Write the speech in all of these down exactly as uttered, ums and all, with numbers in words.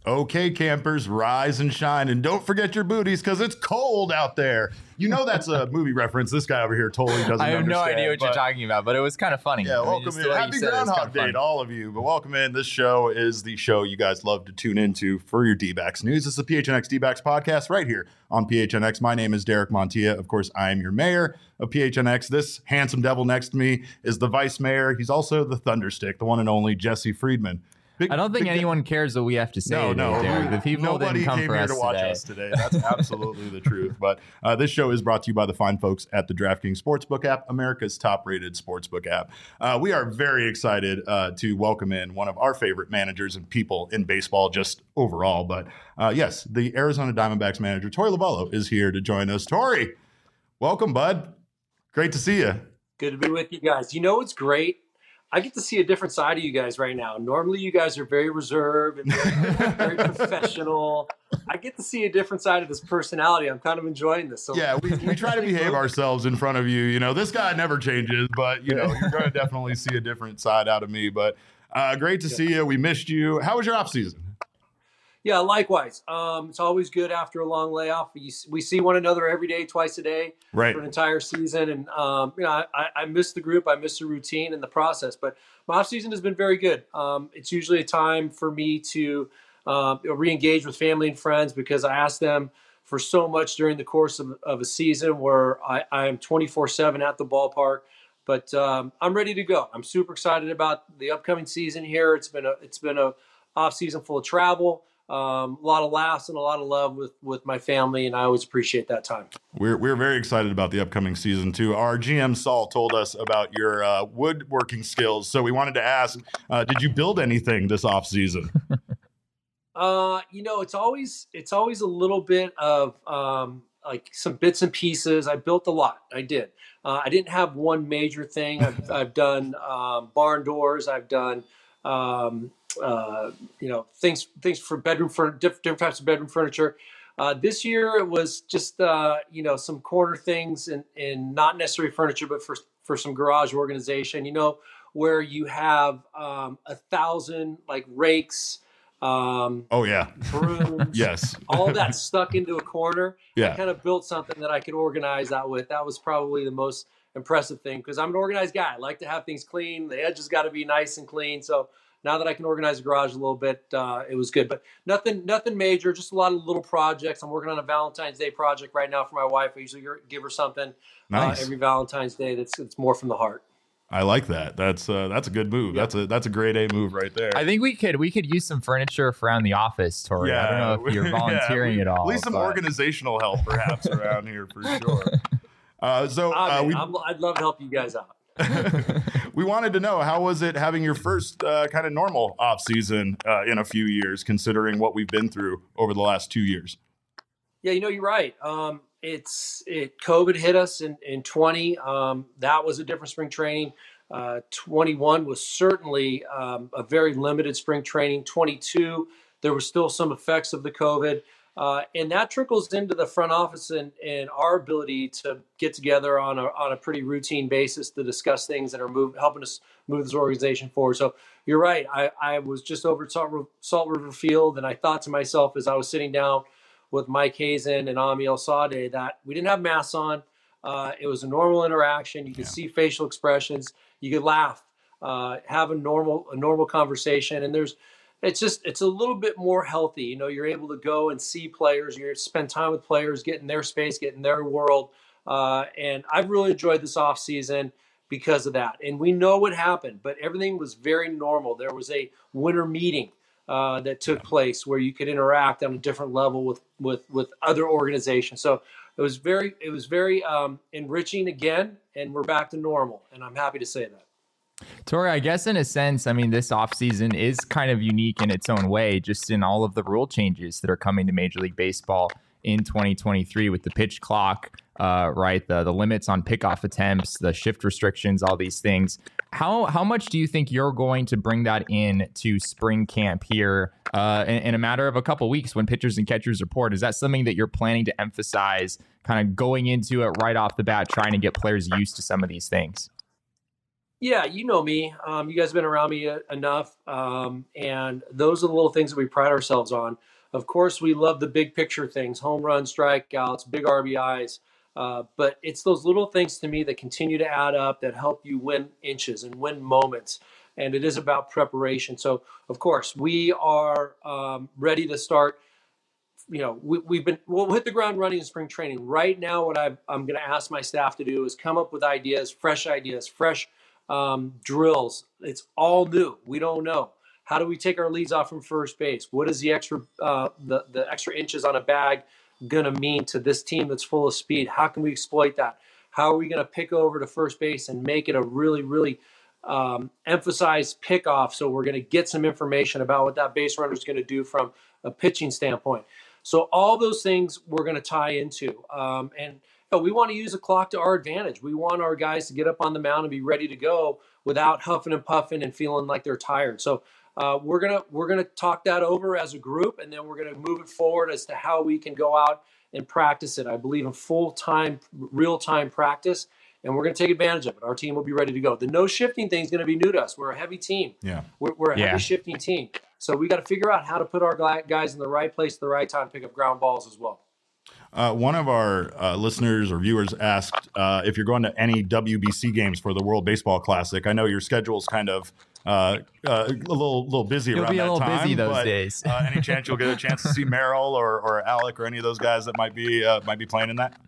Okay, campers, rise and shine, and don't forget your booties because it's cold out there. You know that's a movie reference. This guy over here totally doesn't I have understand, no idea what but, you're talking about, but it was kind of funny. Yeah, I mean, welcome just in. the way you Happy said it was Groundhog kind of Day funny. to all of you. But welcome in. This show is the show you guys love to tune into for your D-backs news. This is the P H N X D-backs podcast right here on P H N X. My name is Derek Montilla. Of course, I am your mayor of P H N X. This handsome devil next to me is the vice mayor. He's also the thunderstick, the one and only Jesse Friedman. Big, I don't think anyone de- cares what we have to say no, today, no. Derek. The people Nobody didn't come came for here us to watch today. us today. That's absolutely the truth. But uh, this show is brought to you by the fine folks at the DraftKings Sportsbook app, America's top-rated sportsbook app. Uh, we are very excited uh, to welcome in one of our favorite managers and people in baseball just overall. But uh, yes, the Arizona Diamondbacks manager, Torey Lovullo, is here to join us. Torey, welcome, bud. Great to see you. Good to be with you guys. You know what's great? I get to see a different side of you guys right now. Normally, you guys are very reserved and very, very professional. I get to see a different side of this personality. I'm kind of enjoying this. So yeah, we, we try to behave ourselves in front of you. You know, this guy never changes, but, you know, you're going to definitely see a different side out of me. But uh, great to yeah. see you. We missed you. How was your off season? Yeah, likewise. Um, it's always good after a long layoff. We, we see one another every day, twice a day, right, for an entire season. And um, you know, I, I miss the group. I miss the routine and the process. But my off season has been very good. Um, it's usually a time for me to um, you know, re-engage with family and friends because I ask them for so much during the course of, of a season where I, I am twenty-four seven at the ballpark. But um, I'm ready to go. I'm super excited about the upcoming season here. It's been a it's been a off season full of travel. Um, a lot of laughs and a lot of love with, with my family, and I always appreciate that time. We're we're very excited about the upcoming season too. Our G M Saul told us about your uh, woodworking skills, so we wanted to ask: uh, did you build anything this off season? uh, you know, it's always it's always a little bit of um, like some bits and pieces. I built a lot. I did. Uh, I didn't have one major thing. I've I've done um, barn doors. I've done. Um, Uh, you know, things things for bedroom for different, different types of bedroom furniture. Uh, this year it was just uh, you know, some corner things and and not necessarily furniture, but for for some garage organization. You know, where you have um, a thousand like rakes. Um, oh yeah, brooms, yes, all that stuck into a corner. Yeah, I kind of built something that I could organize that with. That was probably the most impressive thing because I'm an organized guy. I like to have things clean. The edges got to be nice and clean. So. Now that I can organize the garage a little bit, uh, it was good, but nothing, nothing major. Just a lot of little projects. I'm working on a Valentine's Day project right now for my wife. I usually give her something nice. uh, every Valentine's Day. That's it's more from the heart. I like that. That's uh, that's a good move. Yep. That's a that's a grade A move right there. I think we could we could use some furniture around the office, Torey. Yeah, I don't know if you're volunteering yeah, at all. At least some but... organizational help, perhaps, around here for sure. Uh, so I uh, mean, we, I'm, I'd love to help you guys out. We wanted to know, how was it having your first uh, kind of normal off season uh, in a few years, considering what we've been through over the last two years? Yeah, you know, you're right. Um, it's it. COVID hit us in in twenty. Um, that was a different spring training. Uh, twenty-one was certainly um, a very limited spring training. twenty-two, there were still some effects of the COVID. Uh, and that trickles into the front office and, and our ability to get together on a on a pretty routine basis to discuss things that are move, helping us move this organization forward. So you're right. I, I was just over at Salt, Salt River Field, and I thought to myself as I was sitting down with Mike Hazen and Ami El Sade that we didn't have masks on. Uh, it was a normal interaction. You could yeah. see facial expressions. You could laugh, uh, have a normal a normal conversation, and there's. It's just, it's a little bit more healthy. You know, you're able to go and see players, you spend time with players, get in their space, get in their world. Uh, and I've really enjoyed this off season because of that. And we know what happened, but everything was very normal. There was a winter meeting uh, that took place where you could interact on a different level with, with, with other organizations. So it was very, it was very um, enriching again, and we're back to normal. And I'm happy to say that. Torey, I guess in a sense, I mean, this offseason is kind of unique in its own way, just in all of the rule changes that are coming to Major League Baseball in twenty twenty-three with the pitch clock, uh, right? The the limits on pickoff attempts, the shift restrictions, all these things. How how much do you think you're going to bring that in to spring camp here uh, in, in a matter of a couple weeks when pitchers and catchers report? Is that something that you're planning to emphasize, kind of going into it right off the bat, trying to get players used to some of these things? Yeah, you know me. Um, you guys have been around me uh, enough. Um, and those are the little things that we pride ourselves on. Of course, we love the big picture things, home runs, strikeouts, big R B Is. Uh, but it's those little things to me that continue to add up that help you win inches and win moments. And it is about preparation. So, of course, we are um, ready to start. You know, we, we've been, we'll hit the ground running in spring training. Right now, what I've, I'm going to ask my staff to do is come up with ideas, fresh ideas, fresh um, drills. It's all new. We don't know. How do we take our leads off from first base? What is the extra, uh, the, the extra inches on a bag going to mean to this team that's full of speed? How can we exploit that? How are we going to pick over to first base and make it a really, really um, emphasized pickoff? So we're going to get some information about what that base runner is going to do from a pitching standpoint. So all those things we're going to tie into. Um, and you know, we want to use the clock to our advantage. We want our guys to get up on the mound and be ready to go without huffing and puffing and feeling like they're tired. So uh, we're going to we're going to talk that over as a group, and then we're going to move it forward as to how we can go out and practice it. I believe in full-time, real-time practice, and we're going to take advantage of it. Our team will be ready to go. The no shifting thing is going to be new to us. We're a heavy team. Yeah, We're, we're a Yeah. heavy shifting team. So we got to figure out how to put our guys in the right place at the right time to pick up ground balls as well. Uh, one of our uh, listeners or viewers asked uh, if you're going to any W B C games for the World Baseball Classic. I know your schedule's kind of uh, uh, a little little busy You'll around be a that little time. busy those but, days. uh, any chance you'll get a chance to see Merrill or, or Alec or any of those guys that might be uh, might be playing in that?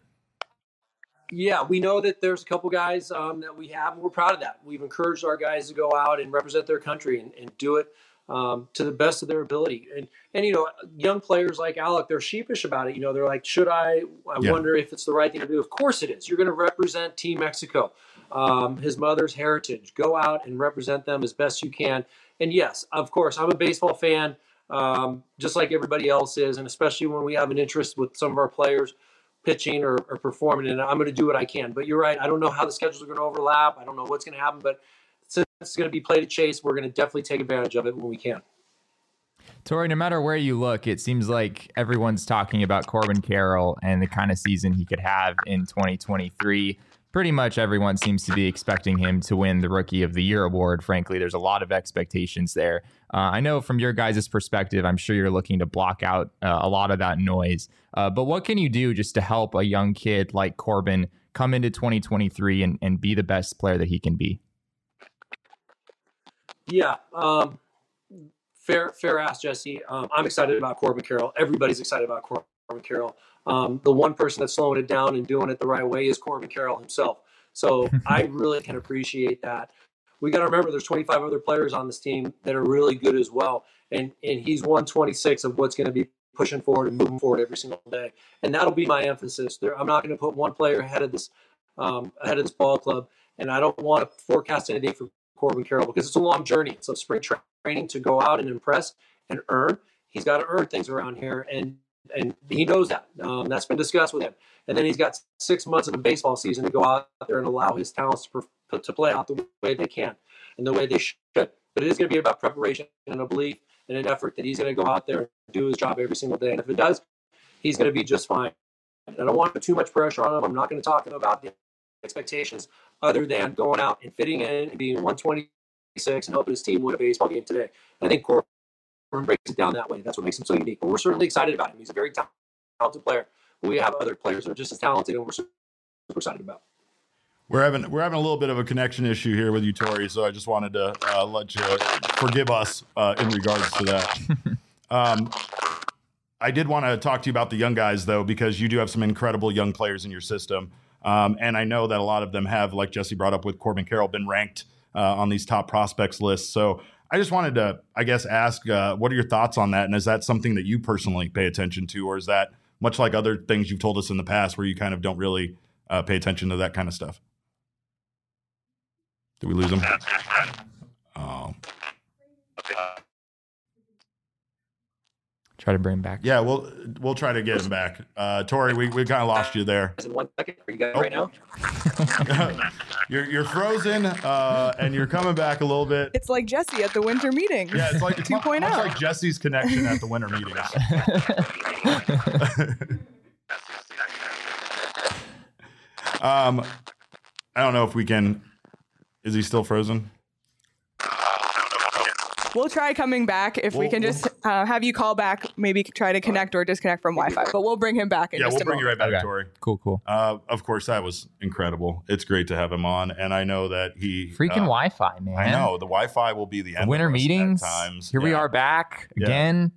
Yeah, we know that there's a couple guys um, that we have, and we're proud of that. We've encouraged our guys to go out and represent their country and, and do it um, to the best of their ability. And, and, you know, young players like Alec, they're sheepish about it. You know, they're like, should I? I Yeah. wonder if it's the right thing to do. Of course it is. You're going to represent Team Mexico, um, his mother's heritage. Go out and represent them as best you can. And yes, of course, I'm a baseball fan, um, just like everybody else is. And especially when we have an interest with some of our players pitching or, or performing, and I'm going to do what I can. But you're right. I don't know how the schedules are going to overlap. I don't know what's going to happen, but since it's going to be played at Chase, we're going to definitely take advantage of it when we can. Tori, no matter where you look, it seems like everyone's talking about Corbin Carroll and the kind of season he could have in twenty twenty-three. Pretty much everyone seems to be expecting him to win the Rookie of the Year award. Frankly, there's a lot of expectations there. Uh, I know from your guys' perspective, I'm sure you're looking to block out uh, a lot of that noise. Uh, but what can you do just to help a young kid like Corbin come into twenty twenty-three and, and be the best player that he can be? Yeah, um, fair fair ask, Jesse. Um, I'm excited about Corbin Carroll. Everybody's excited about Corbin Carroll. Um, the one person that's slowing it down and doing it the right way is Corbin Carroll himself. So I really can appreciate that. We got to remember there's twenty-five other players on this team that are really good as well. And and he's one twenty-six of what's going to be pushing forward and moving forward every single day. And that'll be my emphasis. There, I'm not going to put one player ahead of this um, ahead of this ball club. And I don't want to forecast anything for Corbin Carroll because it's a long journey. It's a spring tra- training to go out and impress and earn. He's got to earn things around here. And And he knows that. Um, that's been discussed with him. And then he's got six months of a baseball season to go out there and allow his talents to, to play out the way they can and the way they should. But it is going to be about preparation and a belief and an effort that he's going to go out there and do his job every single day. And if it does, he's going to be just fine. And I don't want to put too much pressure on him. I'm not going to talk about the expectations other than going out and fitting in and being one twenty-six and helping his team win a baseball game today. I think Corbin breaks it down that way. That's what makes him so unique. But we're certainly excited about him. He's a very talented player. We have other players that are just as talented, and we're super excited about. We're having we're having a little bit of a connection issue here with you, Tori. So I just wanted to uh, let you forgive us uh, in regards to that. um, I did want to talk to you about the young guys, though, because you do have some incredible young players in your system, um, and I know that a lot of them have, like Jesse brought up with Corbin Carroll, been ranked uh, on these top prospects lists. So I just wanted to, I guess, ask, uh, what are your thoughts on that? And is that something that you personally pay attention to, or is that much like other things you've told us in the past where you kind of don't really uh, pay attention to that kind of stuff? Did we lose him? Oh. Try to bring him back. Yeah, we'll we'll try to get him back. Uh, Tori, we, we kind of lost you there. In one second, are you guys Oh. right now? you're you're frozen, uh, and you're coming back a little bit. It's like Jesse at the winter meeting. Yeah, it's like it's much, 2.0. much like Jesse's connection at the winter meetings. um, I don't know if we can Is he still frozen? We'll try coming back if we We'll- can just uh, have you call back, maybe try to connect or disconnect from Wi-Fi. But we'll bring him back in Yeah, just we'll a bring moment. you right back, Okay. Tori. Cool, cool. Uh, of course, that was incredible. It's great to have him on, and I know that he Freaking uh, Wi-Fi, man. I know the Wi-Fi will be the end. Winter of us meetings. at times. Here we Yeah. are back Yeah. again.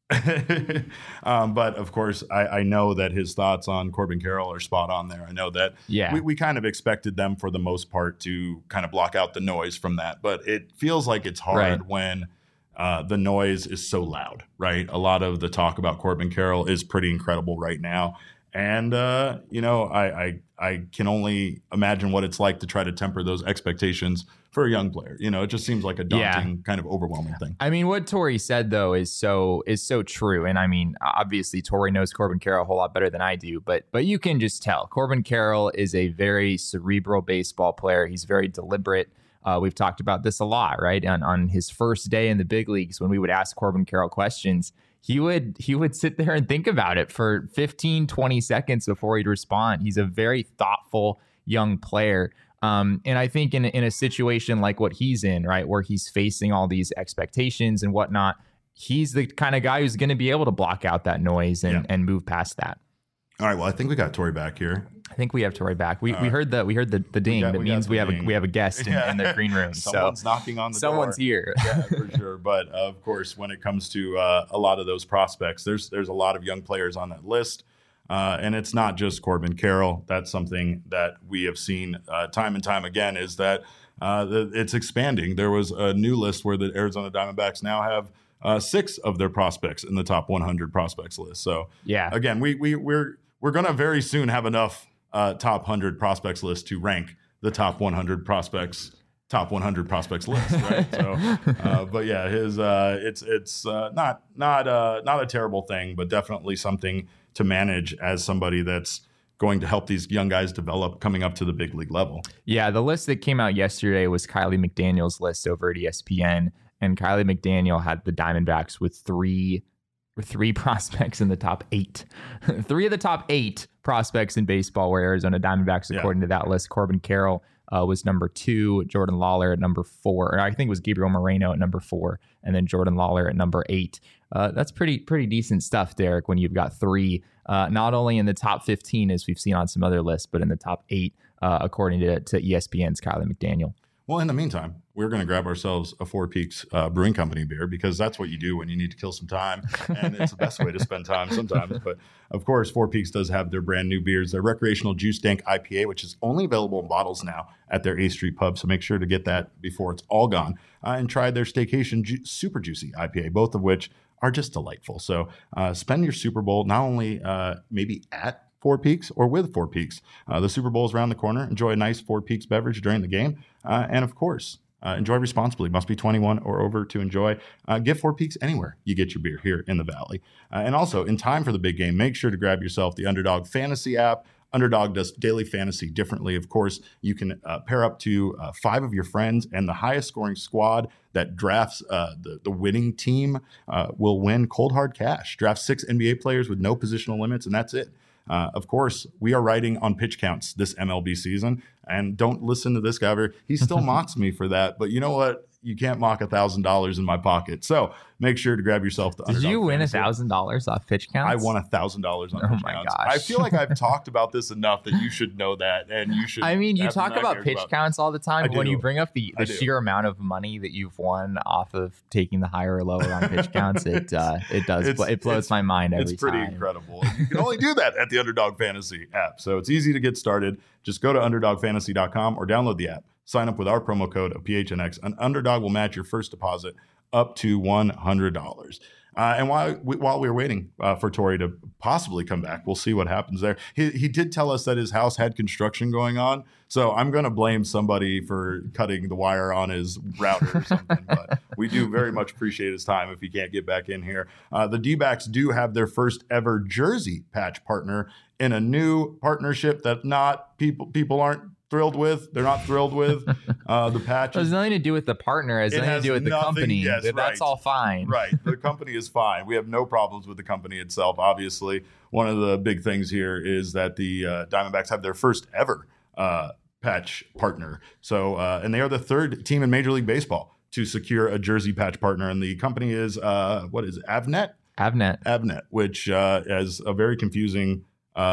um, but of course, I, I know that his thoughts on Corbin Carroll are spot on there. I know that Yeah. we, we kind of expected them for the most part to kind of block out the noise from that, but it feels like it's hard Right. when uh, the noise is so loud, right? A lot of the talk about Corbin Carroll is pretty incredible right now. And, uh, you know, I, I I can only imagine what it's like to try to temper those expectations for a young player. You know, it just seems like a Yeah. daunting, kind of overwhelming thing. I mean, what Tori said though is so is so true, and I mean, obviously Tori knows Corbin Carroll a whole lot better than I do, but but you can just tell Corbin Carroll is a very cerebral baseball player. He's very deliberate. Uh, we've talked about this a lot, right? On on his first day in the big leagues, when we would ask Corbin Carroll questions, he would he would sit there and think about it for fifteen, twenty seconds before he'd respond. He's a very thoughtful young player. Um, and I think in, in a situation like what he's in, right, where he's facing all these expectations and whatnot, he's the kind of guy who's going to be able to block out that noise and, Yeah. and move past that. All right. Well, I think we got Tori back here. I think we have Tori back. We, All we right. heard the we heard the, the ding. got- that we got means the we have ding. a we have a guest in, Yeah. in the green room. Someone's so knocking on the someone's door. here. Yeah, for sure. But uh, of course, when it comes to uh, a lot of those prospects, there's there's a lot of young players on that list. Uh, and it's not just Corbin Carroll. That's something that we have seen uh, time and time again is that uh, the, it's expanding. There was a new list where the Arizona Diamondbacks now have uh, six of their prospects in the top one hundred prospects list. So Yeah. again, we, we, we're, we're going to very soon have enough uh, top one hundred prospects list to rank the top one hundred prospects top one hundred prospects list, right? So, uh, but yeah, his uh, it's it's uh, not not uh, not a terrible thing, but definitely something to manage as somebody that's going to help these young guys develop coming up to the big league level. Yeah, the list that came out yesterday was Kylie McDaniel's list over at E S P N, and Kylie McDaniel had the Diamondbacks with three with three prospects in the top eight. Three of the top eight prospects in baseball were Arizona Diamondbacks, Yeah. according to that list. Corbin Carroll uh, was number two, Jordan Lawler at number four, or I think it was Gabriel Moreno at number four, and then Jordan Lawler at number eight. Uh, that's pretty pretty decent stuff, Derek, when you've got three, uh, not only in the top fifteen, as we've seen on some other lists, but in the top eight, uh, according to, to E S P N's Kylie McDaniel. Well, in the meantime, we're going to grab ourselves a Four Peaks uh, Brewing Company beer because that's what you do when you need to kill some time. And it's the best way to spend time sometimes. But of course, Four Peaks does have their brand new beers, their recreational Juice Dank I P A, which is only available in bottles now at their A Street pub. So make sure to get that before it's all gone. Uh, and try their Staycation Ju- Super Juicy I P A, both of which are just delightful. So uh, spend your Super Bowl not only uh, maybe at Four Peaks or with Four Peaks. Uh, the Super Bowl is around the corner. Enjoy a nice Four Peaks beverage during the game. Uh, and of course, uh, enjoy responsibly. Must be twenty-one or over to enjoy. Uh, get Four Peaks anywhere you get your beer here in the Valley. Uh, and also, in time for the big game, make sure to grab yourself the Underdog Fantasy app. Underdog does daily fantasy differently. Of course, you can uh, pair up to uh, five of your friends, and the highest scoring squad that drafts uh, the, the winning team uh, will win cold hard cash. Draft six N B A players with no positional limits, and that's it. Uh, of course, we are riding on pitch counts this M L B season, and don't listen to this guy. Over. He still mocks me for that, but you know what? You can't mock a thousand dollars in my pocket. So make sure to grab yourself the. Did Underdog you win a Fantasy. thousand dollars off pitch counts? I won a thousand dollars on Oh pitch my counts. gosh. I feel like I've talked about this enough that you should know that, and you should. I mean, you have talk some about nightmares pitch about- counts all the time, I but when do. you bring up the, I the do. sheer amount of money that you've won off of taking the higher or lower on pitch counts, it uh, it does It's- it blows it's- my mind every It's pretty time. incredible. You can only do that at the Underdog Fantasy app. So it's easy to get started. Just go to underdog fantasy dot com or download the app. Sign up with our promo code of P H N X. An Underdog will match your first deposit up to one hundred dollars. Uh, and while we, while we were waiting uh, for Tori to possibly come back, we'll see what happens there. He, he did tell us that his house had construction going on. So I'm going to blame somebody for cutting the wire on his router or something. But we do very much appreciate his time if he can't get back in here. Uh, the D-backs do have their first ever jersey patch partner in a new partnership that not people people aren't thrilled with. They're not thrilled with uh, the patch. It has nothing to do with the partner. It has It nothing has to do with the nothing- company. yes, That's right. all fine. Right. The company is fine. We have no problems with the company itself. Obviously, one of the big things here is that the uh, Diamondbacks have their first ever uh, patch partner. So, uh, and they are the third team in Major League Baseball to secure a jersey patch partner. And the company is, uh, what is it? Avnet? Avnet. Avnet, which uh, has a very confusing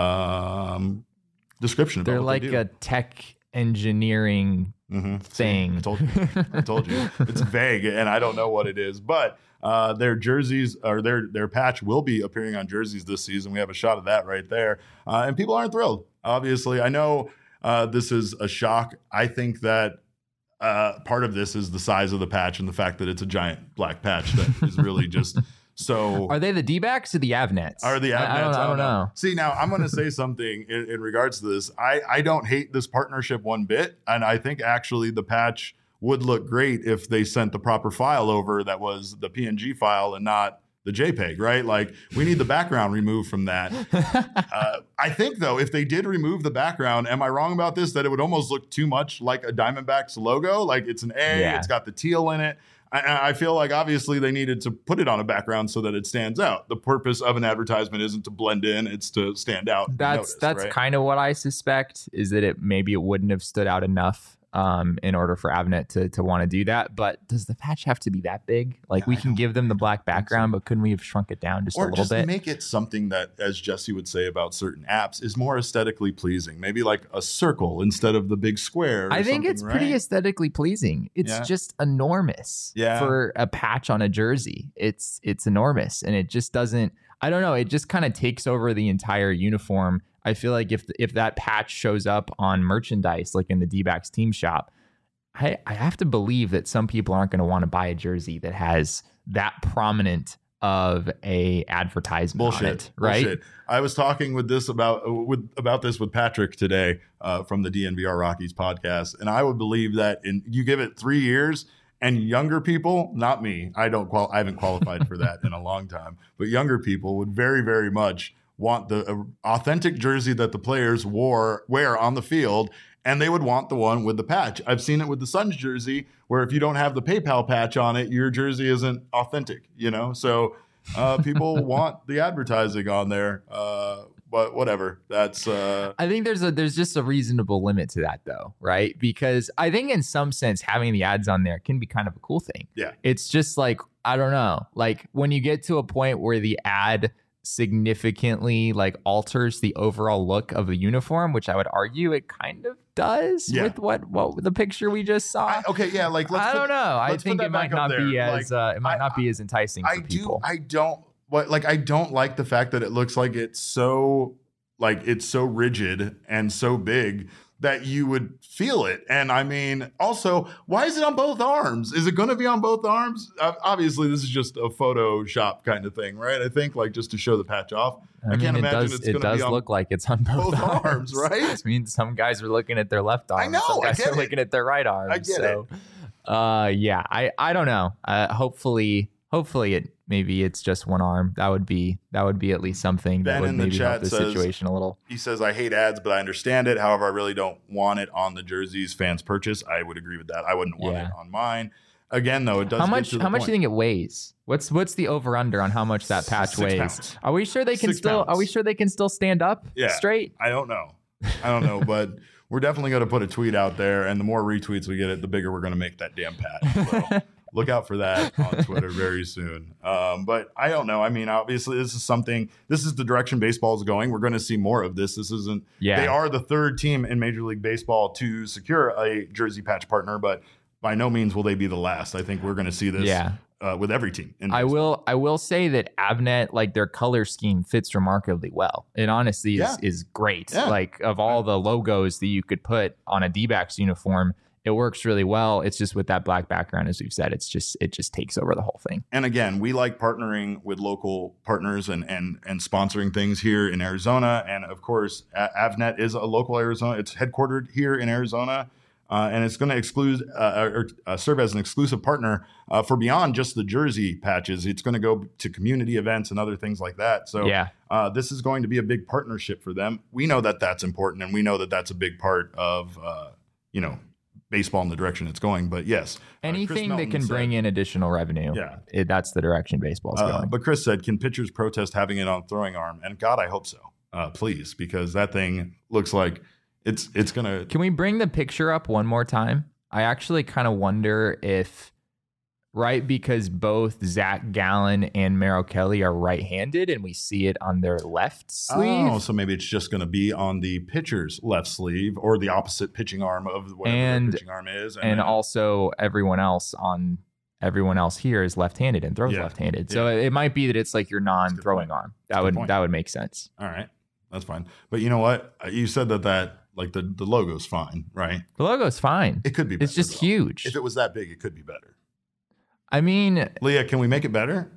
um, description of They're what like they do. a tech engineering Mm-hmm. thing. I told you. I told you. It's vague, and I don't know what it is. But uh, their jerseys or their their patch will be appearing on jerseys this season. We have a shot of that right there, uh, and people aren't thrilled. Obviously, I know uh, this is a shock. I think that uh, part of this is the size of the patch and the fact that it's a giant black patch that is really just. So Are they the D-backs or the Avnets? Are the Avnets? I, I, don't, I don't know. See, now I'm going to say something in, in regards to this. I, I don't hate this partnership one bit. And I think actually the patch would look great if they sent the proper file over that was the P N G file and not the JPEG, right? Like we need the background removed from that. uh, I think, though, if they did remove the background, am I wrong about this? That it would almost look too much like a Diamondbacks logo? Like it's an A, Yeah. It's got the teal in it. I, I feel like obviously they needed to put it on a background so that it stands out. The purpose of an advertisement isn't to blend in; it's to stand out. and be That's noticed, that's right? kind of what I suspect is that it maybe it wouldn't have stood out enough um, in order for Avnet to to want to do that. But does the patch have to be that big? Like Yeah, we I can don't- give them the black I don't think so. background, but couldn't we have shrunk it down just a or little just bit? make it something that, as Jesse would say about certain apps, is more aesthetically pleasing. Maybe like a circle instead of the big square. or I think it's something, pretty right? aesthetically pleasing. It's Yeah. just enormous Yeah. for a patch on a jersey. It's it's enormous, and it just doesn't. I don't know. It just kind of takes over the entire uniform. I feel like if if that patch shows up on merchandise, like in the D-backs team shop, I I have to believe that some people aren't going to want to buy a jersey that has that prominent of a advertisement Bullshit, on it, right? Bullshit. I was talking with this about with about this with Patrick today uh, from the D N V R Rockies podcast, and I would believe that in you give it three years, and younger people, not me, I don't qual, I haven't qualified for that in a long time, but younger people would very very much want the uh, authentic jersey that the players wore wear on the field. And they would want the one with the patch. I've seen it with the Suns jersey, where if you don't have the PayPal patch on it, your jersey isn't authentic, you know? So uh, people want the advertising on there. Uh, but whatever. That's uh, I think there's a there's just a reasonable limit to that though, right? Because I think in some sense having the ads on there can be kind of a cool thing. Yeah. It's just like, I don't know, like when you get to a point where the ad significantly like alters the overall look of the uniform, which I would argue it kind of does Yeah. with what what the picture we just saw. I, okay, yeah, like let's I put- don't know. I let's put think that it might back up not there. be as Like, uh, it might I- not be as enticing I for do. people. I don't. What like I don't like the fact that it looks like it's so like it's so rigid and so big that you would feel it. And I mean, also, why is it on both arms? Is it going to be on both arms? Uh, obviously, this is just a Photoshop kind of thing, right? I think like just to show the patch off. I, I, can't mean, it imagine does, it's it going to does be on look like it's on both, both arms, right? I mean, some guys are looking at their left arm. I know, Some I guys get are it. looking at their right arm. I get so, uh, yeah, I, I don't know. Uh, hopefully, hopefully it maybe it's just one arm. That would be that would be at least something Ben that would in the maybe help chat the says- situation a little. He says, I hate ads, but I understand it. However, I really don't want it on the jerseys fans purchase. I would agree with that. I wouldn't want Yeah. it on mine. Again, though, it does How get much? to the How much point. do you think it weighs? What's what's the over under on how much that patch Six weighs? pounds. Are we sure they can Six still? pounds. Are we sure they can still stand up Yeah. straight? I don't know. I don't know, but we're definitely going to put a tweet out there, and the more retweets we get, it the bigger we're going to make that damn patch. So look out for that on Twitter very soon. Um, but I don't know. I mean, obviously, this is something. This is the direction baseball is going. We're going to see more of this. This isn't. Yeah. They are the third team in Major League Baseball to secure a jersey patch partner, but by no means will they be the last. I think we're going to see this. Yeah. Uh, with every team. In I baseball. will. I will say that Avnet, like their color scheme, fits remarkably well. It honestly is Yeah. is great. Yeah. Like of all the logos that you could put on a D-backs uniform, it works really well. It's just with that black background, as we've said, it's just it just takes over the whole thing. And again, we like partnering with local partners and and and sponsoring things here in Arizona. And of course, A- Avnet is a local Arizona. It's headquartered here in Arizona, uh, and it's going to exclude uh, or uh, serve as an exclusive partner uh, for beyond just the jersey patches. It's going to go to community events and other things like that. So Yeah. uh, this is going to be a big partnership for them. We know that that's important, and we know that that's a big part of uh, you know. baseball in the direction it's going. But yes, uh, Chris Anything that Melton can said- bring in additional revenue, Yeah. it, that's the direction baseball's Uh, going. but Chris said, can pitchers protest having it on throwing arm? And God, I hope so. Uh, please, because that thing looks like it's it's gonna. Can we bring the picture up one more time? I actually kind of wonder if, right, because both Zach Gallen and Merrill Kelly are right-handed, and we see it on their left sleeve. Oh, so maybe it's just going to be on the pitcher's left sleeve or the opposite pitching arm of whatever And- their pitching arm is, and then- also everyone else on everyone else here is left-handed and throws Yeah. left-handed. So Yeah. it might be that it's like your non-throwing point. arm. That's a That good would point. that would make sense. all right, that's fine. But you know what? You said that that like the the logo's fine, right? The logo's fine. It could be. Better, It's just though. huge. If it was that big, it could be better. I mean, Leah, can we make it better?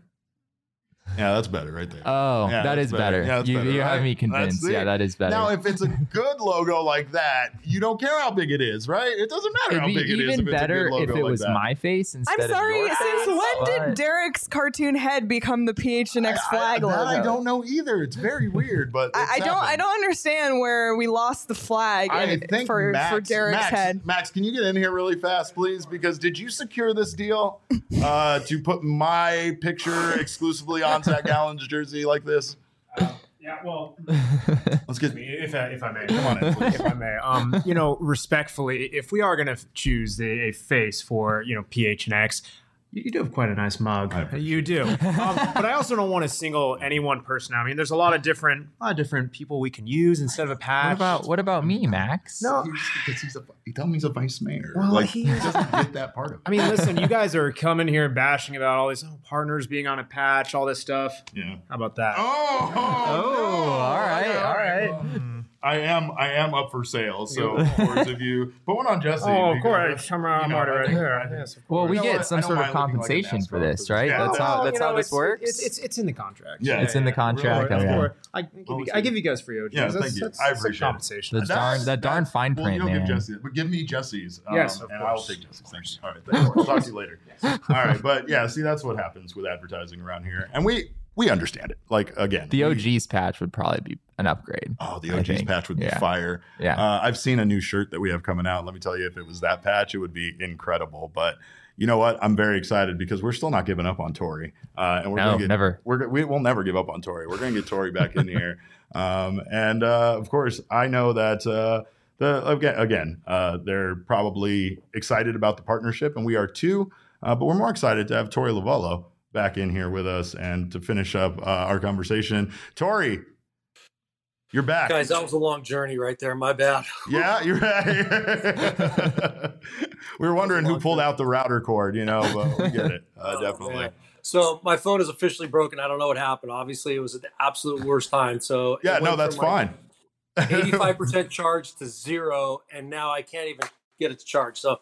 Yeah, that's better right there. oh, Yeah, that that's is better. better. Yeah, that's you better, you have right? me That's convinced. it. Yeah, that is better. Now, if it's a good logo like that, you don't care how big it is, right? It doesn't matter how It'd big be it is. even if it's better a good if logo it like was that. my face instead I'm sorry. of your Since face. when did but- Derek's cartoon head become the P H N X I- I- flag that logo? I don't know either. It's very weird, but I, it's I don't. I happened. don't understand where we lost the flag I in- think for Max, for Derek's Max, head. Max, can you get in here really fast, please? Because did you secure this deal uh, to put my picture exclusively on Zach Gallen's jersey like this? Yeah, well, Let's get. if I, if I may, Come on in, please. if I may, um, you know, respectfully, if we are going to choose the, a face for you know P H N X, you, you do have quite a nice mug. I appreciate You do, um, but I also don't want to single any one person out. I mean, there's a lot of different, a lot of different people we can use instead of a patch. What about what about me, Max? No, Because he's a, he told me he's a vice mayor. Well, like he- he doesn't get that part of it. I mean, listen, you guys are coming here and bashing about all these oh, partners being on a patch, all this stuff. Yeah. How about that? Oh, Oh, all right, Okay, all right. well, I am I am up for sale. So of course, if you put one on Jesse, Oh, of because, course. I'm, I'm you know, already I right think- there. I think- Yes, of Well, course. we You know get what? some I don't sort of mind looking like a compensation NASCAR for this, person. right? Yeah, that's well, how Well, that's you know, how this it's- works. It's, it's it's in the contract. Yeah. It's in the contract, Of okay. course. I give, Well, you, we'll I give see. you guys free O Gs. Yeah, That's, thank you. that's, I that's appreciate it. compensation. The darn that darn fine well, print, you don't man. give Jesse, but give me Jesse's. Um, Yes, of and I will course. take Jesse's. Thanks. All right, thanks. I'll talk to you later. All right, but yeah, see, that's what happens with advertising around here, and we we understand it. Like again, The we- O G's patch would probably be an upgrade. Oh, the I O G's think. patch would be Yeah. fire. Yeah. Uh, I've seen a new shirt that we have coming out. Let me tell you, if it was that patch, it would be incredible. But you know what? I'm very excited because we're still not giving up on Tori. Uh, and we're No, gonna get, never. We're, go- we will never give up on Tori. We're going to get Tori back in here. Um, and uh, of course, I know that uh, the again, again uh, they're probably excited about the partnership, and we are too. Uh, but we're more excited to have Tori Lavallo back in here with us and to finish up uh, our conversation. Tori, you're back. Guys, that was a long journey right there. My bad. Yeah, you're right. We were wondering who pulled out the router cord, you know, but we get it. Uh, Oh, definitely. man. So my phone is officially broken. I don't know what happened. Obviously, it was at the absolute worst time. So it Yeah, no, went that's from, like, fine. eighty-five percent charge to zero, and now I can't even get it to charge. So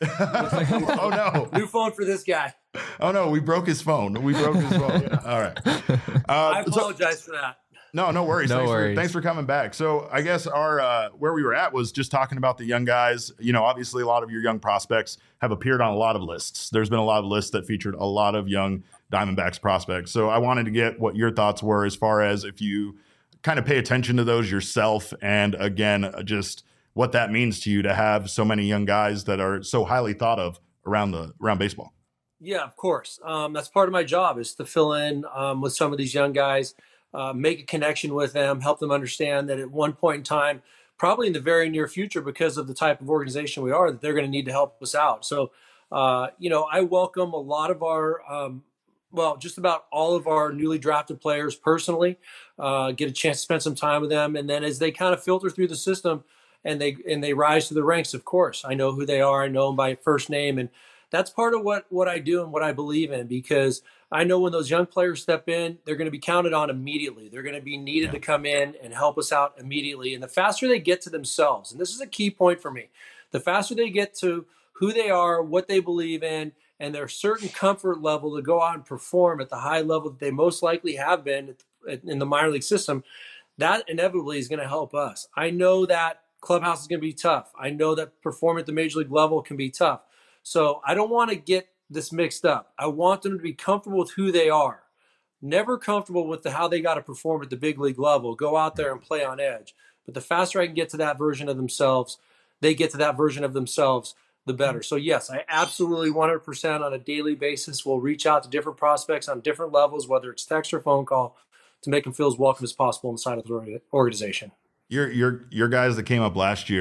Oh, no. new phone for this guy. Oh, no. We broke his phone. We broke his phone. All right. Uh, I so- apologize for that. No, no worries. No thanks, worries. For, thanks for coming back. So I guess our uh, where we were at was just talking about the young guys. You know, obviously a lot of your young prospects have appeared on a lot of lists. There's been a lot of lists that featured a lot of young Diamondbacks prospects. So I wanted to get what your thoughts were as far as if you kind of pay attention to those yourself, and again, just what that means to you to have so many young guys that are so highly thought of around the around baseball. Yeah, of course. Um, that's part of my job is to fill in um, with some of these young guys, uh, make a connection with them, help them understand that at one point in time, probably in the very near future, because of the type of organization we are, that they're going to need to help us out. So, uh, you know, I welcome a lot of our, um, well, just about all of our newly drafted players personally, uh, get a chance to spend some time with them. And then as they kind of filter through the system and they, and they rise to the ranks, of course, I know who they are. I know them by first name. And that's part of what, what I do and what I believe in, because I know when those young players step in, they're going to be counted on immediately. They're going to be needed Yeah. to come in and help us out immediately. And the faster they get to themselves, and this is a key point for me, the faster they get to who they are, what they believe in, and their certain comfort level to go out and perform at the high level that they most likely have been at- in the minor league system, that inevitably is going to help us. I know that clubhouse is going to be tough. I know that performing at the major league level can be tough. So I don't want to get this mixed up. I want them to be comfortable with who they are, never comfortable with the, how they got to perform at the big league level, go out there and play on edge. But the faster I can get to that version of themselves, they get to that version of themselves, the better. So yes, I absolutely one hundred percent on a daily basis will reach out to different prospects on different levels, whether it's text or phone call, to make them feel as welcome as possible inside of the organization. Your your your guys that came up last year,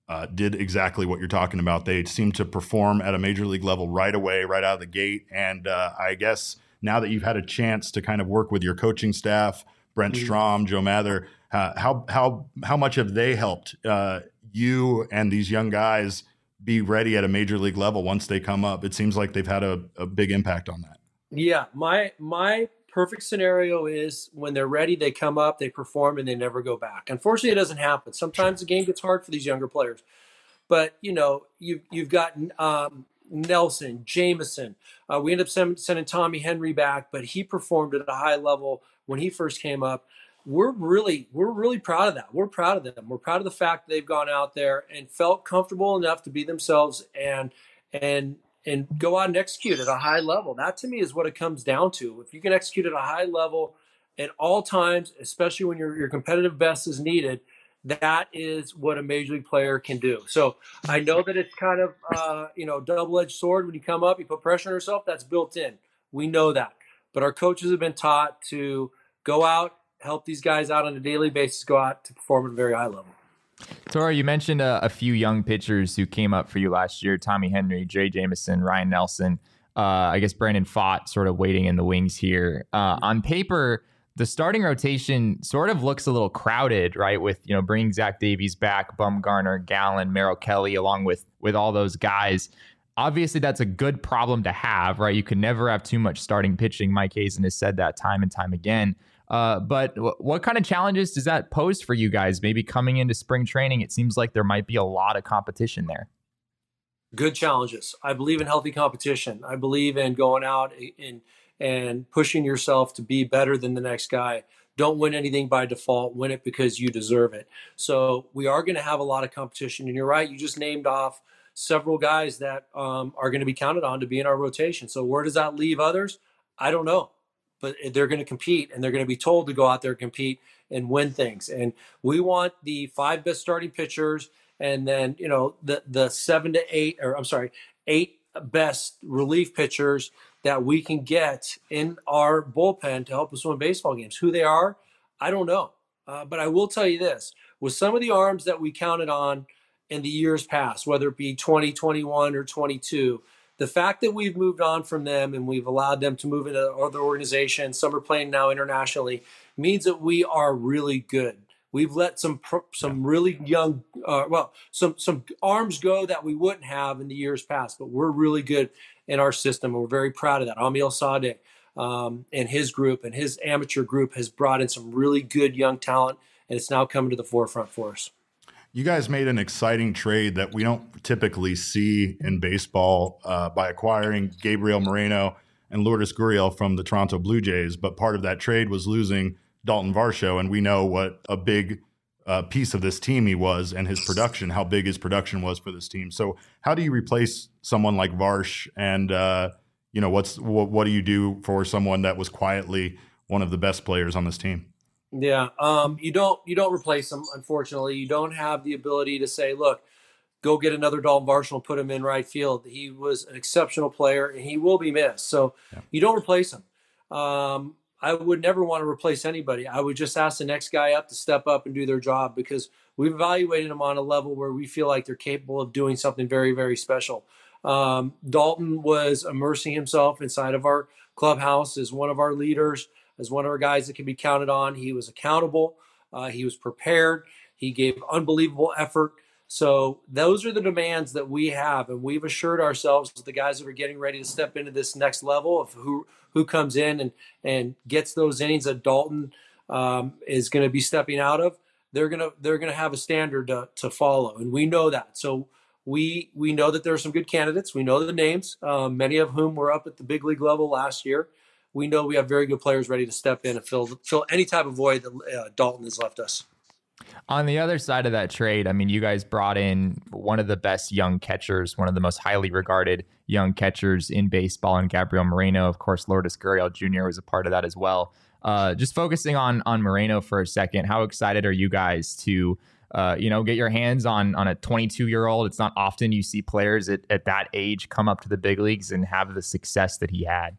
uh, did exactly what you're talking about. They seem to perform at a major league level right away, right out of the gate. And uh, I guess now that you've had a chance to kind of work with your coaching staff, Brent Mhm. Strom, Joe Mather, uh, how how how much have they helped uh, you and these young guys be ready at a major league level once they come up? It seems like they've had a, a big impact on that. Yeah, my my perfect scenario is when they're ready, they come up, they perform, and they never go back. Unfortunately, it doesn't happen. Sometimes the game gets hard for these younger players. But you know, you've you've got um, Nelson, Jameson. Uh, we ended up send, sending Tommy Henry back, but he performed at a high level when he first came up. We're really we're really proud of that. We're proud of them. We're proud of the fact that they've gone out there and felt comfortable enough to be themselves and and and go out and execute at a high level. That to me is what it comes down to. If you can execute at a high level at all times, especially when your your competitive best is needed, that is what a major league player can do. So I know that it's kind of uh, you know double-edged sword. When you come up, you put pressure on yourself. That's built in. We know that, but our coaches have been taught to go out, help these guys out on a daily basis, go out to perform at a very high level. Tora, you mentioned a, a few young pitchers who came up for you last year: Tommy Henry, Jay Jameson, Ryan Nelson. Uh, I guess Brandon Pfaadt sort of waiting in the wings here. Uh, on paper, the starting rotation sort of looks a little crowded, right? With, you know, bringing Zach Davies back, Bumgarner, Gallen, Merrill Kelly, along with with all those guys. Obviously, that's a good problem to have, right? You can never have too much starting pitching. Mike Hazen has said that time and time again. Uh, but w- what kind of challenges does that pose for you guys? Maybe coming into spring training, it seems like there might be a lot of competition there. Good challenges. I believe in healthy competition. I believe in going out and and pushing yourself to be better than the next guy. Don't win anything by default. Win it because you deserve it. So we are going to have a lot of competition. And you're right. You just named off several guys that um, are going to be counted on to be in our rotation. So where does that leave others? I don't know. But they're going to compete, and they're going to be told to go out there and compete and win things. And we want the five best starting pitchers, and then, you know, the the seven to eight, or I'm sorry, eight best relief pitchers that we can get in our bullpen to help us win baseball games. Who they are, I don't know. Uh, but I will tell you this: with some of the arms that we counted on in the years past, whether it be twenty twenty-one or twenty-two, the fact that we've moved on from them and we've allowed them to move into other organizations, some are playing now internationally, means that we are really good. We've let some some really young, uh, well, some some arms go that we wouldn't have in the years past, but we're really good in our system, and we're very proud of that. Amiel Sadeh um, and his group and his amateur group has brought in some really good young talent, and it's now coming to the forefront for us. You guys made an exciting trade that we don't typically see in baseball uh, by acquiring Gabriel Moreno and Lourdes Gurriel from the Toronto Blue Jays. But part of that trade was losing Dalton Varsho, and we know what a big uh, piece of this team he was and his production, how big his production was for this team. So how do you replace someone like Varsh? And, uh, you know, what's what, what do you do for someone that was quietly one of the best players on this team? Yeah, um, you don't you don't replace him. Unfortunately, you don't have the ability to say, "Look, go get another Dalton Varsho and put him in right field." He was an exceptional player, and he will be missed. So yeah. You don't replace him. Um, I would never want to replace anybody. I would just ask the next guy up to step up and do their job, because we've evaluated them on a level where we feel like they're capable of doing something very, very special. Um, Dalton was immersing himself inside of our clubhouse as one of our leaders, as one of our guys that can be counted on. He was accountable. Uh, he was prepared. He gave unbelievable effort. So those are the demands that we have, and we've assured ourselves that the guys that are getting ready to step into this next level of who who comes in and and gets those innings that Dalton um, is going to be stepping out of, they're gonna they're gonna have a standard to, to follow, and we know that. So we we know that there are some good candidates. We know the names, um, many of whom were up at the big league level last year. We know we have very good players ready to step in and fill fill any type of void that uh, Dalton has left us. On the other side of that trade, I mean, you guys brought in one of the best young catchers, one of the most highly regarded young catchers in baseball, and Gabriel Moreno. Of course, Lourdes Gurriel Junior was a part of that as well. Uh, just focusing on on Moreno for a second, how excited are you guys to uh, you know, get your hands on on a twenty-two-year-old? It's not often you see players at, at that age come up to the big leagues and have the success that he had.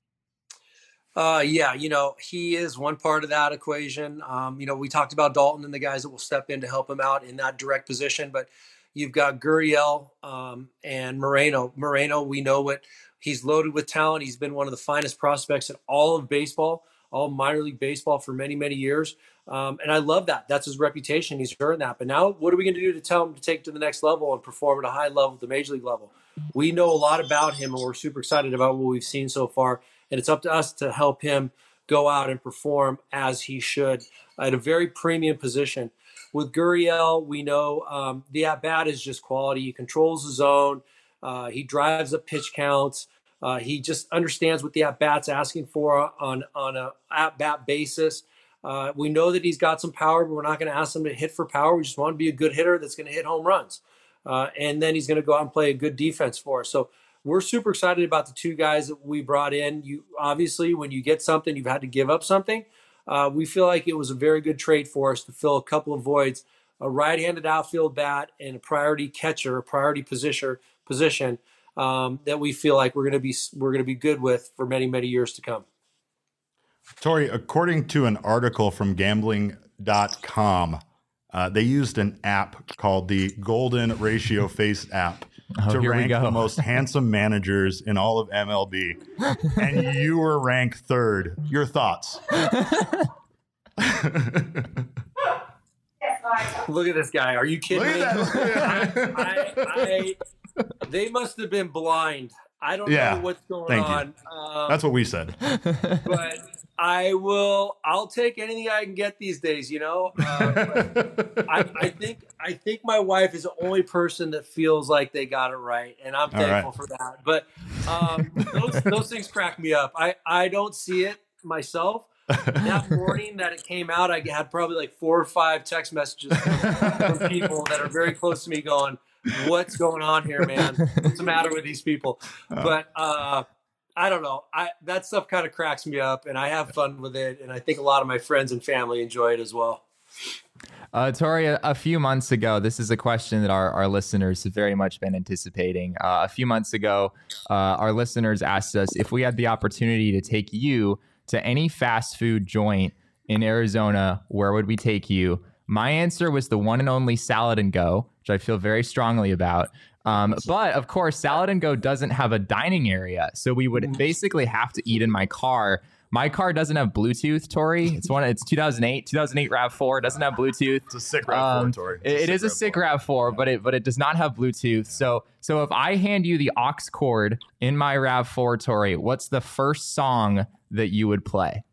Uh, yeah, you know, he is one part of that equation. Um, you know, we talked about Dalton and the guys that will step in to help him out in that direct position, but You've got Gurriel um, and Moreno. Moreno, we know what he's loaded with talent. He's been one of the finest prospects in all of baseball, all minor league baseball for many, many years. Um, and I love that. That's his reputation. He's earned that. But now what are we going to do to tell him to take to the next level and perform at a high level at the major league level? We know a lot about him, and we're super excited about what we've seen so far. And it's up to us to help him go out and perform as he should at a very premium position. With Gurriel, we know um, the at-bat is just quality. He controls the zone. Uh, he drives up pitch counts. Uh, he just understands what the at-bat's asking for on, on a at-bat basis. Uh, we know that he's got some power, but we're not going to ask him to hit for power. We just want to be a good hitter that's going to hit home runs. Uh, and then he's going to go out and play a good defense for us. So we're super excited about the two guys that we brought in. You obviously, when you get something, you've had to give up something. Uh, we feel like it was a very good trade for us to fill a couple of voids, a right-handed outfield bat and a priority catcher, a priority position, position um, that we feel like we're going to be we're going to be good with for many, many years to come. Tori, according to an article from gambling dot com, uh, they used an app called the Golden Ratio Face app oh, to here we rank go. the most handsome managers in all of M L B. And you were ranked third. Your thoughts? Look at this guy. Are you kidding me? I, I, I, they must have been blind. I don't Yeah, know what's going thank you. on. Um, That's what we said. but I will. I'll take anything I can get these days. You know, uh, I, I think I think my wife is the only person that feels like they got it right, and I'm All thankful right. for that. But um, those those things crack me up. I I don't see it myself. That morning that it came out, I had probably like four or five text messages from, from people that are very close to me going, what's going on here, man? What's the matter with these people? But uh, I don't know. I that stuff kind of cracks me up, and I have fun with it, and I think a lot of my friends and family enjoy it as well. Uh, Tori, a, a few months ago, this is a question that our, our listeners have very much been anticipating. Uh, a few months ago, uh, our listeners asked us if we had the opportunity to take you to any fast food joint in Arizona, where would we take you? My answer was the one and only Salad and Go, which I feel very strongly about. Um, but of course, Salad and Go doesn't have a dining area, so we would basically have to eat in my car. My car doesn't have Bluetooth, Tori. It's one. It's two thousand eight, two thousand eight RAV four. Doesn't have Bluetooth. It's a sick RAV Um, four, Tori. It, it is a sick RAV four, but it but it does not have Bluetooth. So so if I hand you the aux cord in my RAV four, Tori, what's the first song that you would play?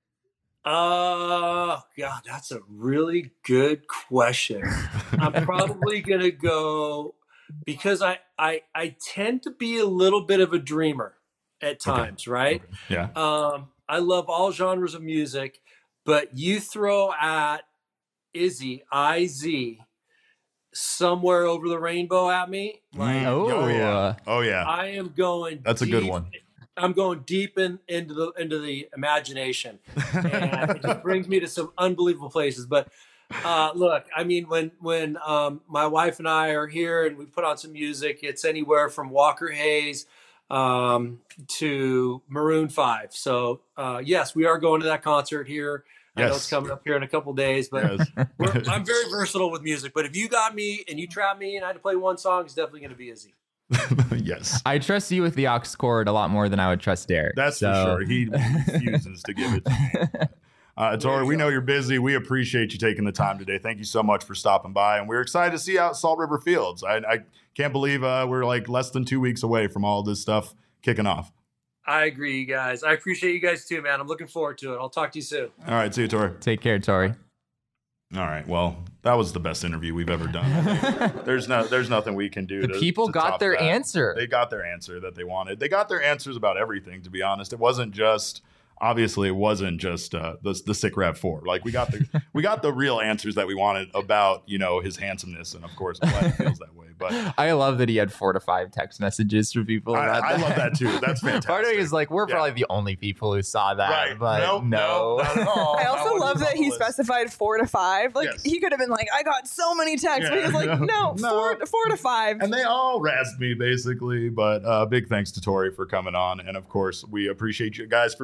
Uh, God, that's a really good question. I'm probably going to go because I, I, I tend to be a little bit of a dreamer at times, okay. right? Okay. Yeah. Um, I love all genres of music, but you throw at Izzy, I Z, Somewhere Over the Rainbow at me. Like, oh, oh, yeah. Oh, yeah. I am going That's a deep, good one. I'm going deep in, into the into the imagination, and it just brings me to some unbelievable places. But uh, look, I mean, when when um, my wife and I are here and we put on some music, it's anywhere from Walker Hayes um, to Maroon five. So uh, yes, we are going to that concert here. Yes. I know it's coming up here in a couple days, but Yes. we're, I'm very versatile with music. But if you got me and you trap me and I had to play one song, it's definitely going to be Izzy. Yes. I trust you with the aux cord a lot more than I would trust Derek. That's so. for sure. He refuses to give it to me. Uh, Tori, we know you're busy. We appreciate you taking the time today. Thank you so much for stopping by. And we're excited to see you out at Salt River Fields. I, I can't believe uh, we're like less than two weeks away from all this stuff kicking off. I agree, you guys. I appreciate you guys too, man. I'm looking forward to it. I'll talk to you soon. All right. See you, Tori. Take care, Tori. All right. Well, that was the best interview we've ever done. there's no, there's nothing we can do. The to, people to got top their that. answer. They got their answer that they wanted. They got their answers about everything, to be honest. It wasn't just, obviously it wasn't just uh, the, the sick RAV four. Like we got the, we got the real answers that we wanted about, you know, his handsomeness. And of course, I'm glad he feels that way. But I love that he had four to five text messages for people. I, about I that. love that too. That's fantastic. Part of me is like, we're Yeah. probably the only people who saw that. Right. But Nope, no. no, not at all. I That also one love is that on the he list. specified four to five. Like Yes. he could have been like, I got so many texts, but Yeah. he was like, no, No. four, four to five. And they all razzed me, basically. But uh, big thanks to Tori for coming on. And, of course, we appreciate you guys for being here.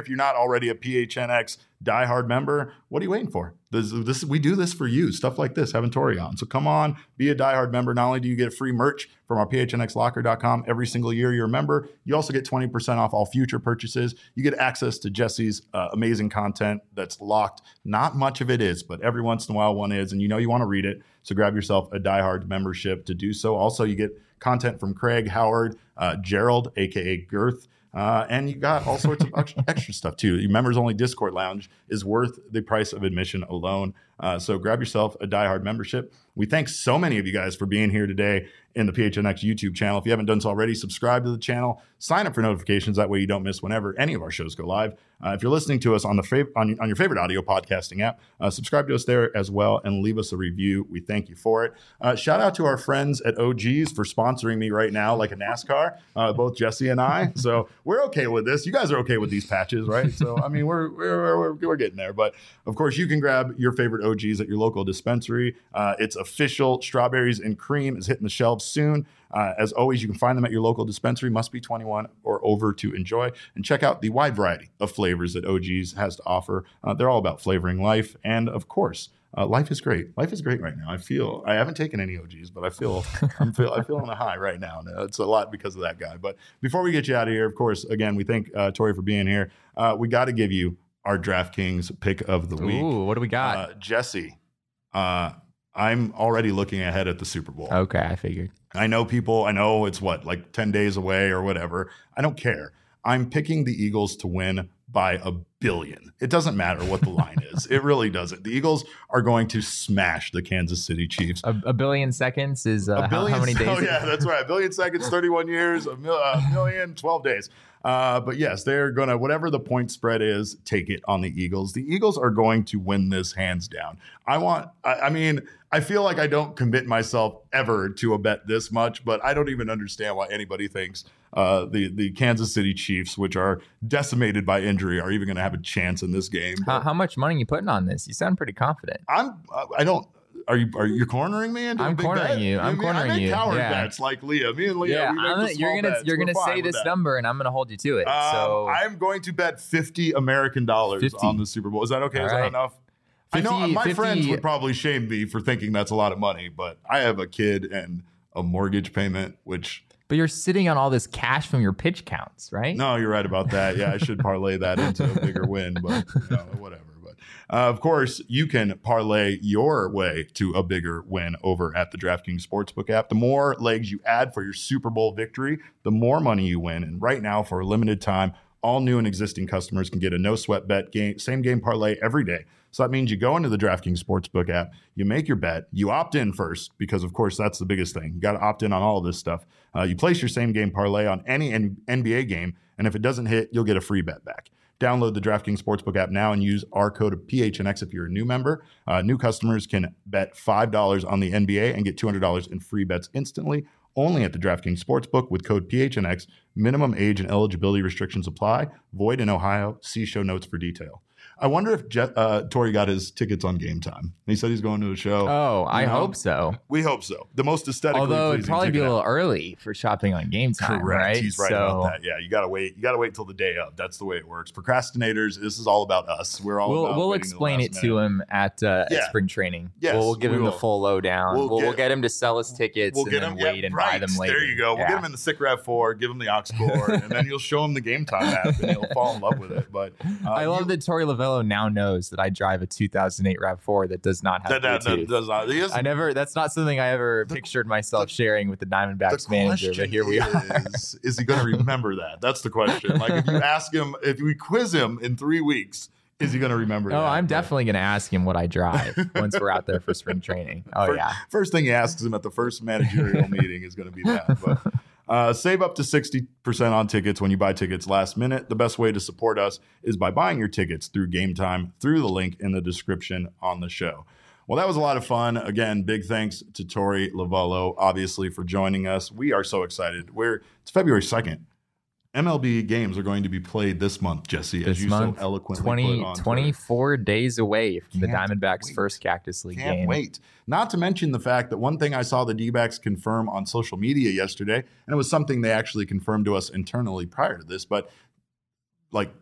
If you're not already a P H N X diehard member, what are you waiting for? This, this we do this for you, stuff like this, having Tori on. So come on, be a diehard member. Not only do you get free merch from our P H N X locker dot com every single year you're a member, you also get twenty percent off all future purchases. You get access to Jesse's uh, amazing content that's locked. Not much of it is, but every once in a while one is, and you know you want to read it. So grab yourself a diehard membership to do so. Also, you get content from Craig, Howard, uh, Gerald, aka Girth. Uh, and you got all sorts of extra, extra stuff too. Your members only Discord lounge is worth the price of admission alone. Uh, so grab yourself a diehard membership. We thank so many of you guys for being here today in the P H N X YouTube channel. If you haven't done so already, subscribe to the channel, sign up for notifications. That way you don't miss whenever any of our shows go live. Uh, if you're listening to us on the fav- on, on your favorite audio podcasting app, uh, subscribe to us there as well and leave us a review. We thank you for it. Uh, shout out to our friends at O Gs for sponsoring me right now like a NASCAR, uh, both Jesse and I. So we're okay with this. You guys are okay with these patches, right? So, I mean, we're we're, we're, we're getting there. But, of course, you can grab your favorite O Gs at your local dispensary. Uh, it's official. Strawberries and cream is hitting the shelves soon. Uh, as always, you can find them at your local dispensary. Must be twenty-one or over to enjoy. And check out the wide variety of flavors that O Gs has to offer. Uh, they're all about flavoring life. And, of course, uh, life is great. Life is great right now. I feel I haven't taken any O Gs, but I feel I'm feel I feel on a high right now. It's a lot because of that guy. But before we get you out of here, of course, again, we thank uh, Tori for being here. Uh, we got to give you our DraftKings pick of the week. Ooh, what do we got? Uh, Jesse, uh, I'm already looking ahead at the Super Bowl. Okay, I figured. I know people, I know it's what, like ten days away or whatever. I don't care. I'm picking the Eagles to win by a billion. It doesn't matter what the line is. It really doesn't. The Eagles are going to smash the Kansas City Chiefs. A, a billion seconds is uh, a billion, how, how many days? Oh, yeah, that's right. A billion seconds, thirty-one years, a, mil, a million, twelve days. Uh, but yes, they're going to, whatever the point spread is, take it on the Eagles. The Eagles are going to win this hands down. I want, I, I mean, I feel like I don't commit myself ever to a bet this much, but I don't even understand why anybody thinks uh, the, the Kansas City Chiefs, which are decimated by injury, are even going to have a chance in this game. How, how much money are you putting on this? You sound pretty confident. I'm, I don't, Are you are you cornering me? Into I'm a big cornering bet? you. I'm I mean, cornering I make you. coward Yeah. bets like Leah. Me and Leah. Yeah, we make I'm the gonna, you're small gonna bets. you're We're gonna fine say with this that. number, and I'm gonna hold you to it. Um, so I'm going to bet fifty American dollars fifty on the Super Bowl. Is that okay? All Is right. that enough? I know fifty my fifty friends would probably shame me for thinking that's a lot of money, but I have a kid and a mortgage payment, which. But you're sitting on all this cash from your pitch counts, right? No, you're right about that. Yeah, I should parlay that into a bigger win, but you know, whatever. But uh, of course, you can parlay your way to a bigger win over at the DraftKings Sportsbook app. The more legs you add for your Super Bowl victory, the more money you win. And right now, for a limited time, all new and existing customers can get a no sweat bet game, same game parlay every day. So that means you go into the DraftKings Sportsbook app, you make your bet, you opt in first, because of course that's the biggest thing. You got to opt in on all of this stuff. Uh, you place your same game parlay on any N B A game, and if it doesn't hit, you'll get a free bet back. Download the DraftKings Sportsbook app now and use our code of P H N X if you're a new member. Uh, new customers can bet five dollars on the N B A and get two hundred dollars in free bets instantly. Only at the DraftKings Sportsbook with code P H N X. Minimum age and eligibility restrictions apply. Void in Ohio. See show notes for detail. I wonder if Je- uh, Tori got his tickets on Game Time. He said he's going to a show. Oh, I You know? hope so. We hope so. The most aesthetically Although it'd pleasing probably be ticket a little out. early for shopping on Game Time, Correct. right? He's right so, about that. Yeah, you gotta wait. You gotta wait till the day of. That's the way it works. Procrastinators. This is all about us. We're all. We'll about we'll waiting till the explain last it minute. to him at, uh, Yeah. at spring training. Yes, we'll, we'll give we him will. the full lowdown. We'll We'll, we'll, get- get him to sell his tickets We'll and get then him. wait yeah, and right. buy them later. There you go. We'll Yeah. get him in the Sick Rav four. Give him the aux cord, and then you'll show him the Game Time app, and he'll fall in love with it. But uh, I love you- that Tori Lavello now knows that I drive a two thousand eight RAV four that does not have that, that, Bluetooth. that does not. He is, I never. That's not something I ever The- pictured myself the- sharing with the Diamondbacks the manager. question But here we are. is, is he going to remember that? That's the question. Like if you ask him, if we quiz him in three weeks, is he going to remember Oh, that? I'm But definitely going to ask him what I drive once we're out there for spring training. Oh First- yeah. First thing he asks him at the first managerial meeting is going to be that. But uh, save up to sixty percent on tickets when you buy tickets last minute. The best way to support us is by buying your tickets through Game Time through the link in the description on the show. Well, that was a lot of fun. Again, big thanks to Tori Lavello, obviously, for joining us. We are so excited. We're it's February second. M L B games are going to be played this month, Jesse, This as you month, so eloquently twenty, put on Twitter. twenty-four days away from the Can't Diamondbacks' wait. first Cactus League Can't game. wait. Not to mention the fact that one thing I saw the D-backs confirm on social media yesterday, and it was something they actually confirmed to us internally prior to this, but like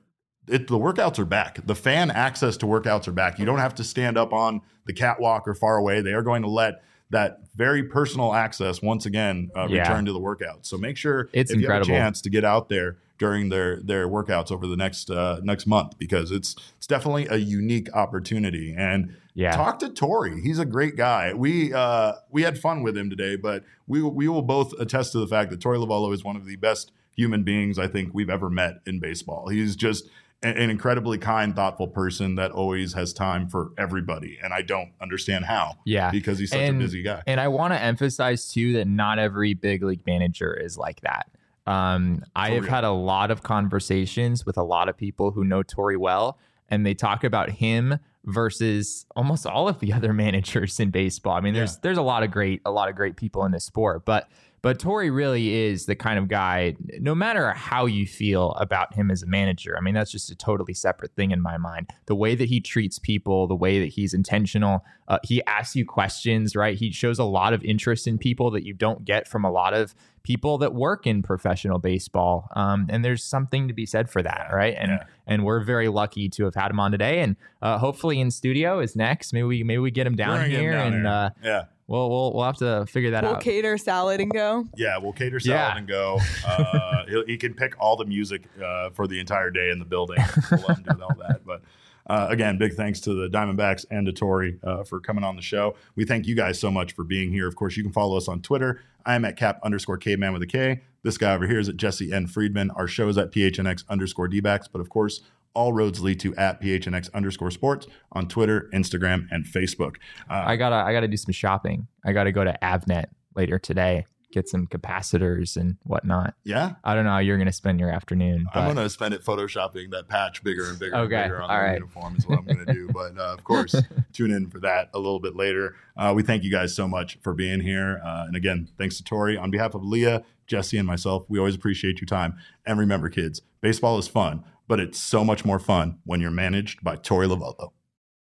it, the workouts are back. The fan access to workouts are back. You don't have to stand up on the catwalk or far away. They are going to let that very personal access once again uh, Yeah. return to the workouts. So make sure It's if incredible. you have a chance to get out there during their their workouts over the next uh, next month, because it's it's definitely a unique opportunity. And Yeah. talk to Tori. He's a great guy. We uh, we had fun with him today, but we we will both attest to the fact that Tori Lavallo is one of the best human beings I think we've ever met in baseball. He's just a- an incredibly kind, thoughtful person that always has time for everybody, and I don't understand how. Yeah. because he's such And- a busy guy. And I want to emphasize too that not every big league manager is like that. Um, I For have real. had a lot of conversations with a lot of people who know Tori well, and they talk about him versus almost all of the other managers in baseball. I mean, there's Yeah. there's a lot of great a lot of great people in this sport, but but Tori really is the kind of guy, no matter how you feel about him as a manager. I mean, that's just a totally separate thing in my mind. The way that he treats people, the way that he's intentional, uh, he asks you questions, right? He shows a lot of interest in people that you don't get from a lot of people that work in professional baseball. Um, and there's something to be said for that, right? And Yeah. and we're very lucky to have had him on today. And uh, hopefully in studio is next. Maybe we maybe we get him down Bring him here, down and here. uh, yeah. we'll we'll we'll have to figure that We'll out. cater salad and go. Yeah, we'll cater salad Yeah. and go. Uh, he'll- he can pick all the music uh, for the entire day in the building. We'll let him do all that. But uh, again, big thanks to the Diamondbacks and to Tori uh, for coming on the show. We thank you guys so much for being here. Of course, you can follow us on Twitter. I am at cap underscore caveman with a K. This guy over here is at Jesse N. Friedman. Our show is at P H N X underscore D-backs. But of course, all roads lead to at P H N X underscore sports on Twitter, Instagram, and Facebook. Uh, I gotta I gotta do some shopping. I gotta go to Avnet later today, get some capacitors and whatnot. yeah, I don't know how you're gonna spend your afternoon. But I'm going to spend it photoshopping that patch bigger and bigger Okay, and bigger on all the right. uniform is what I'm going to do. But uh, of course, tune in for that a little bit later. Uh, we thank you guys so much for being here. Uh, and again, thanks to Tori. On behalf of Leah, Jesse, and myself, we always appreciate your time. And remember, kids, baseball is fun, but it's so much more fun when you're managed by Tori Lavallo.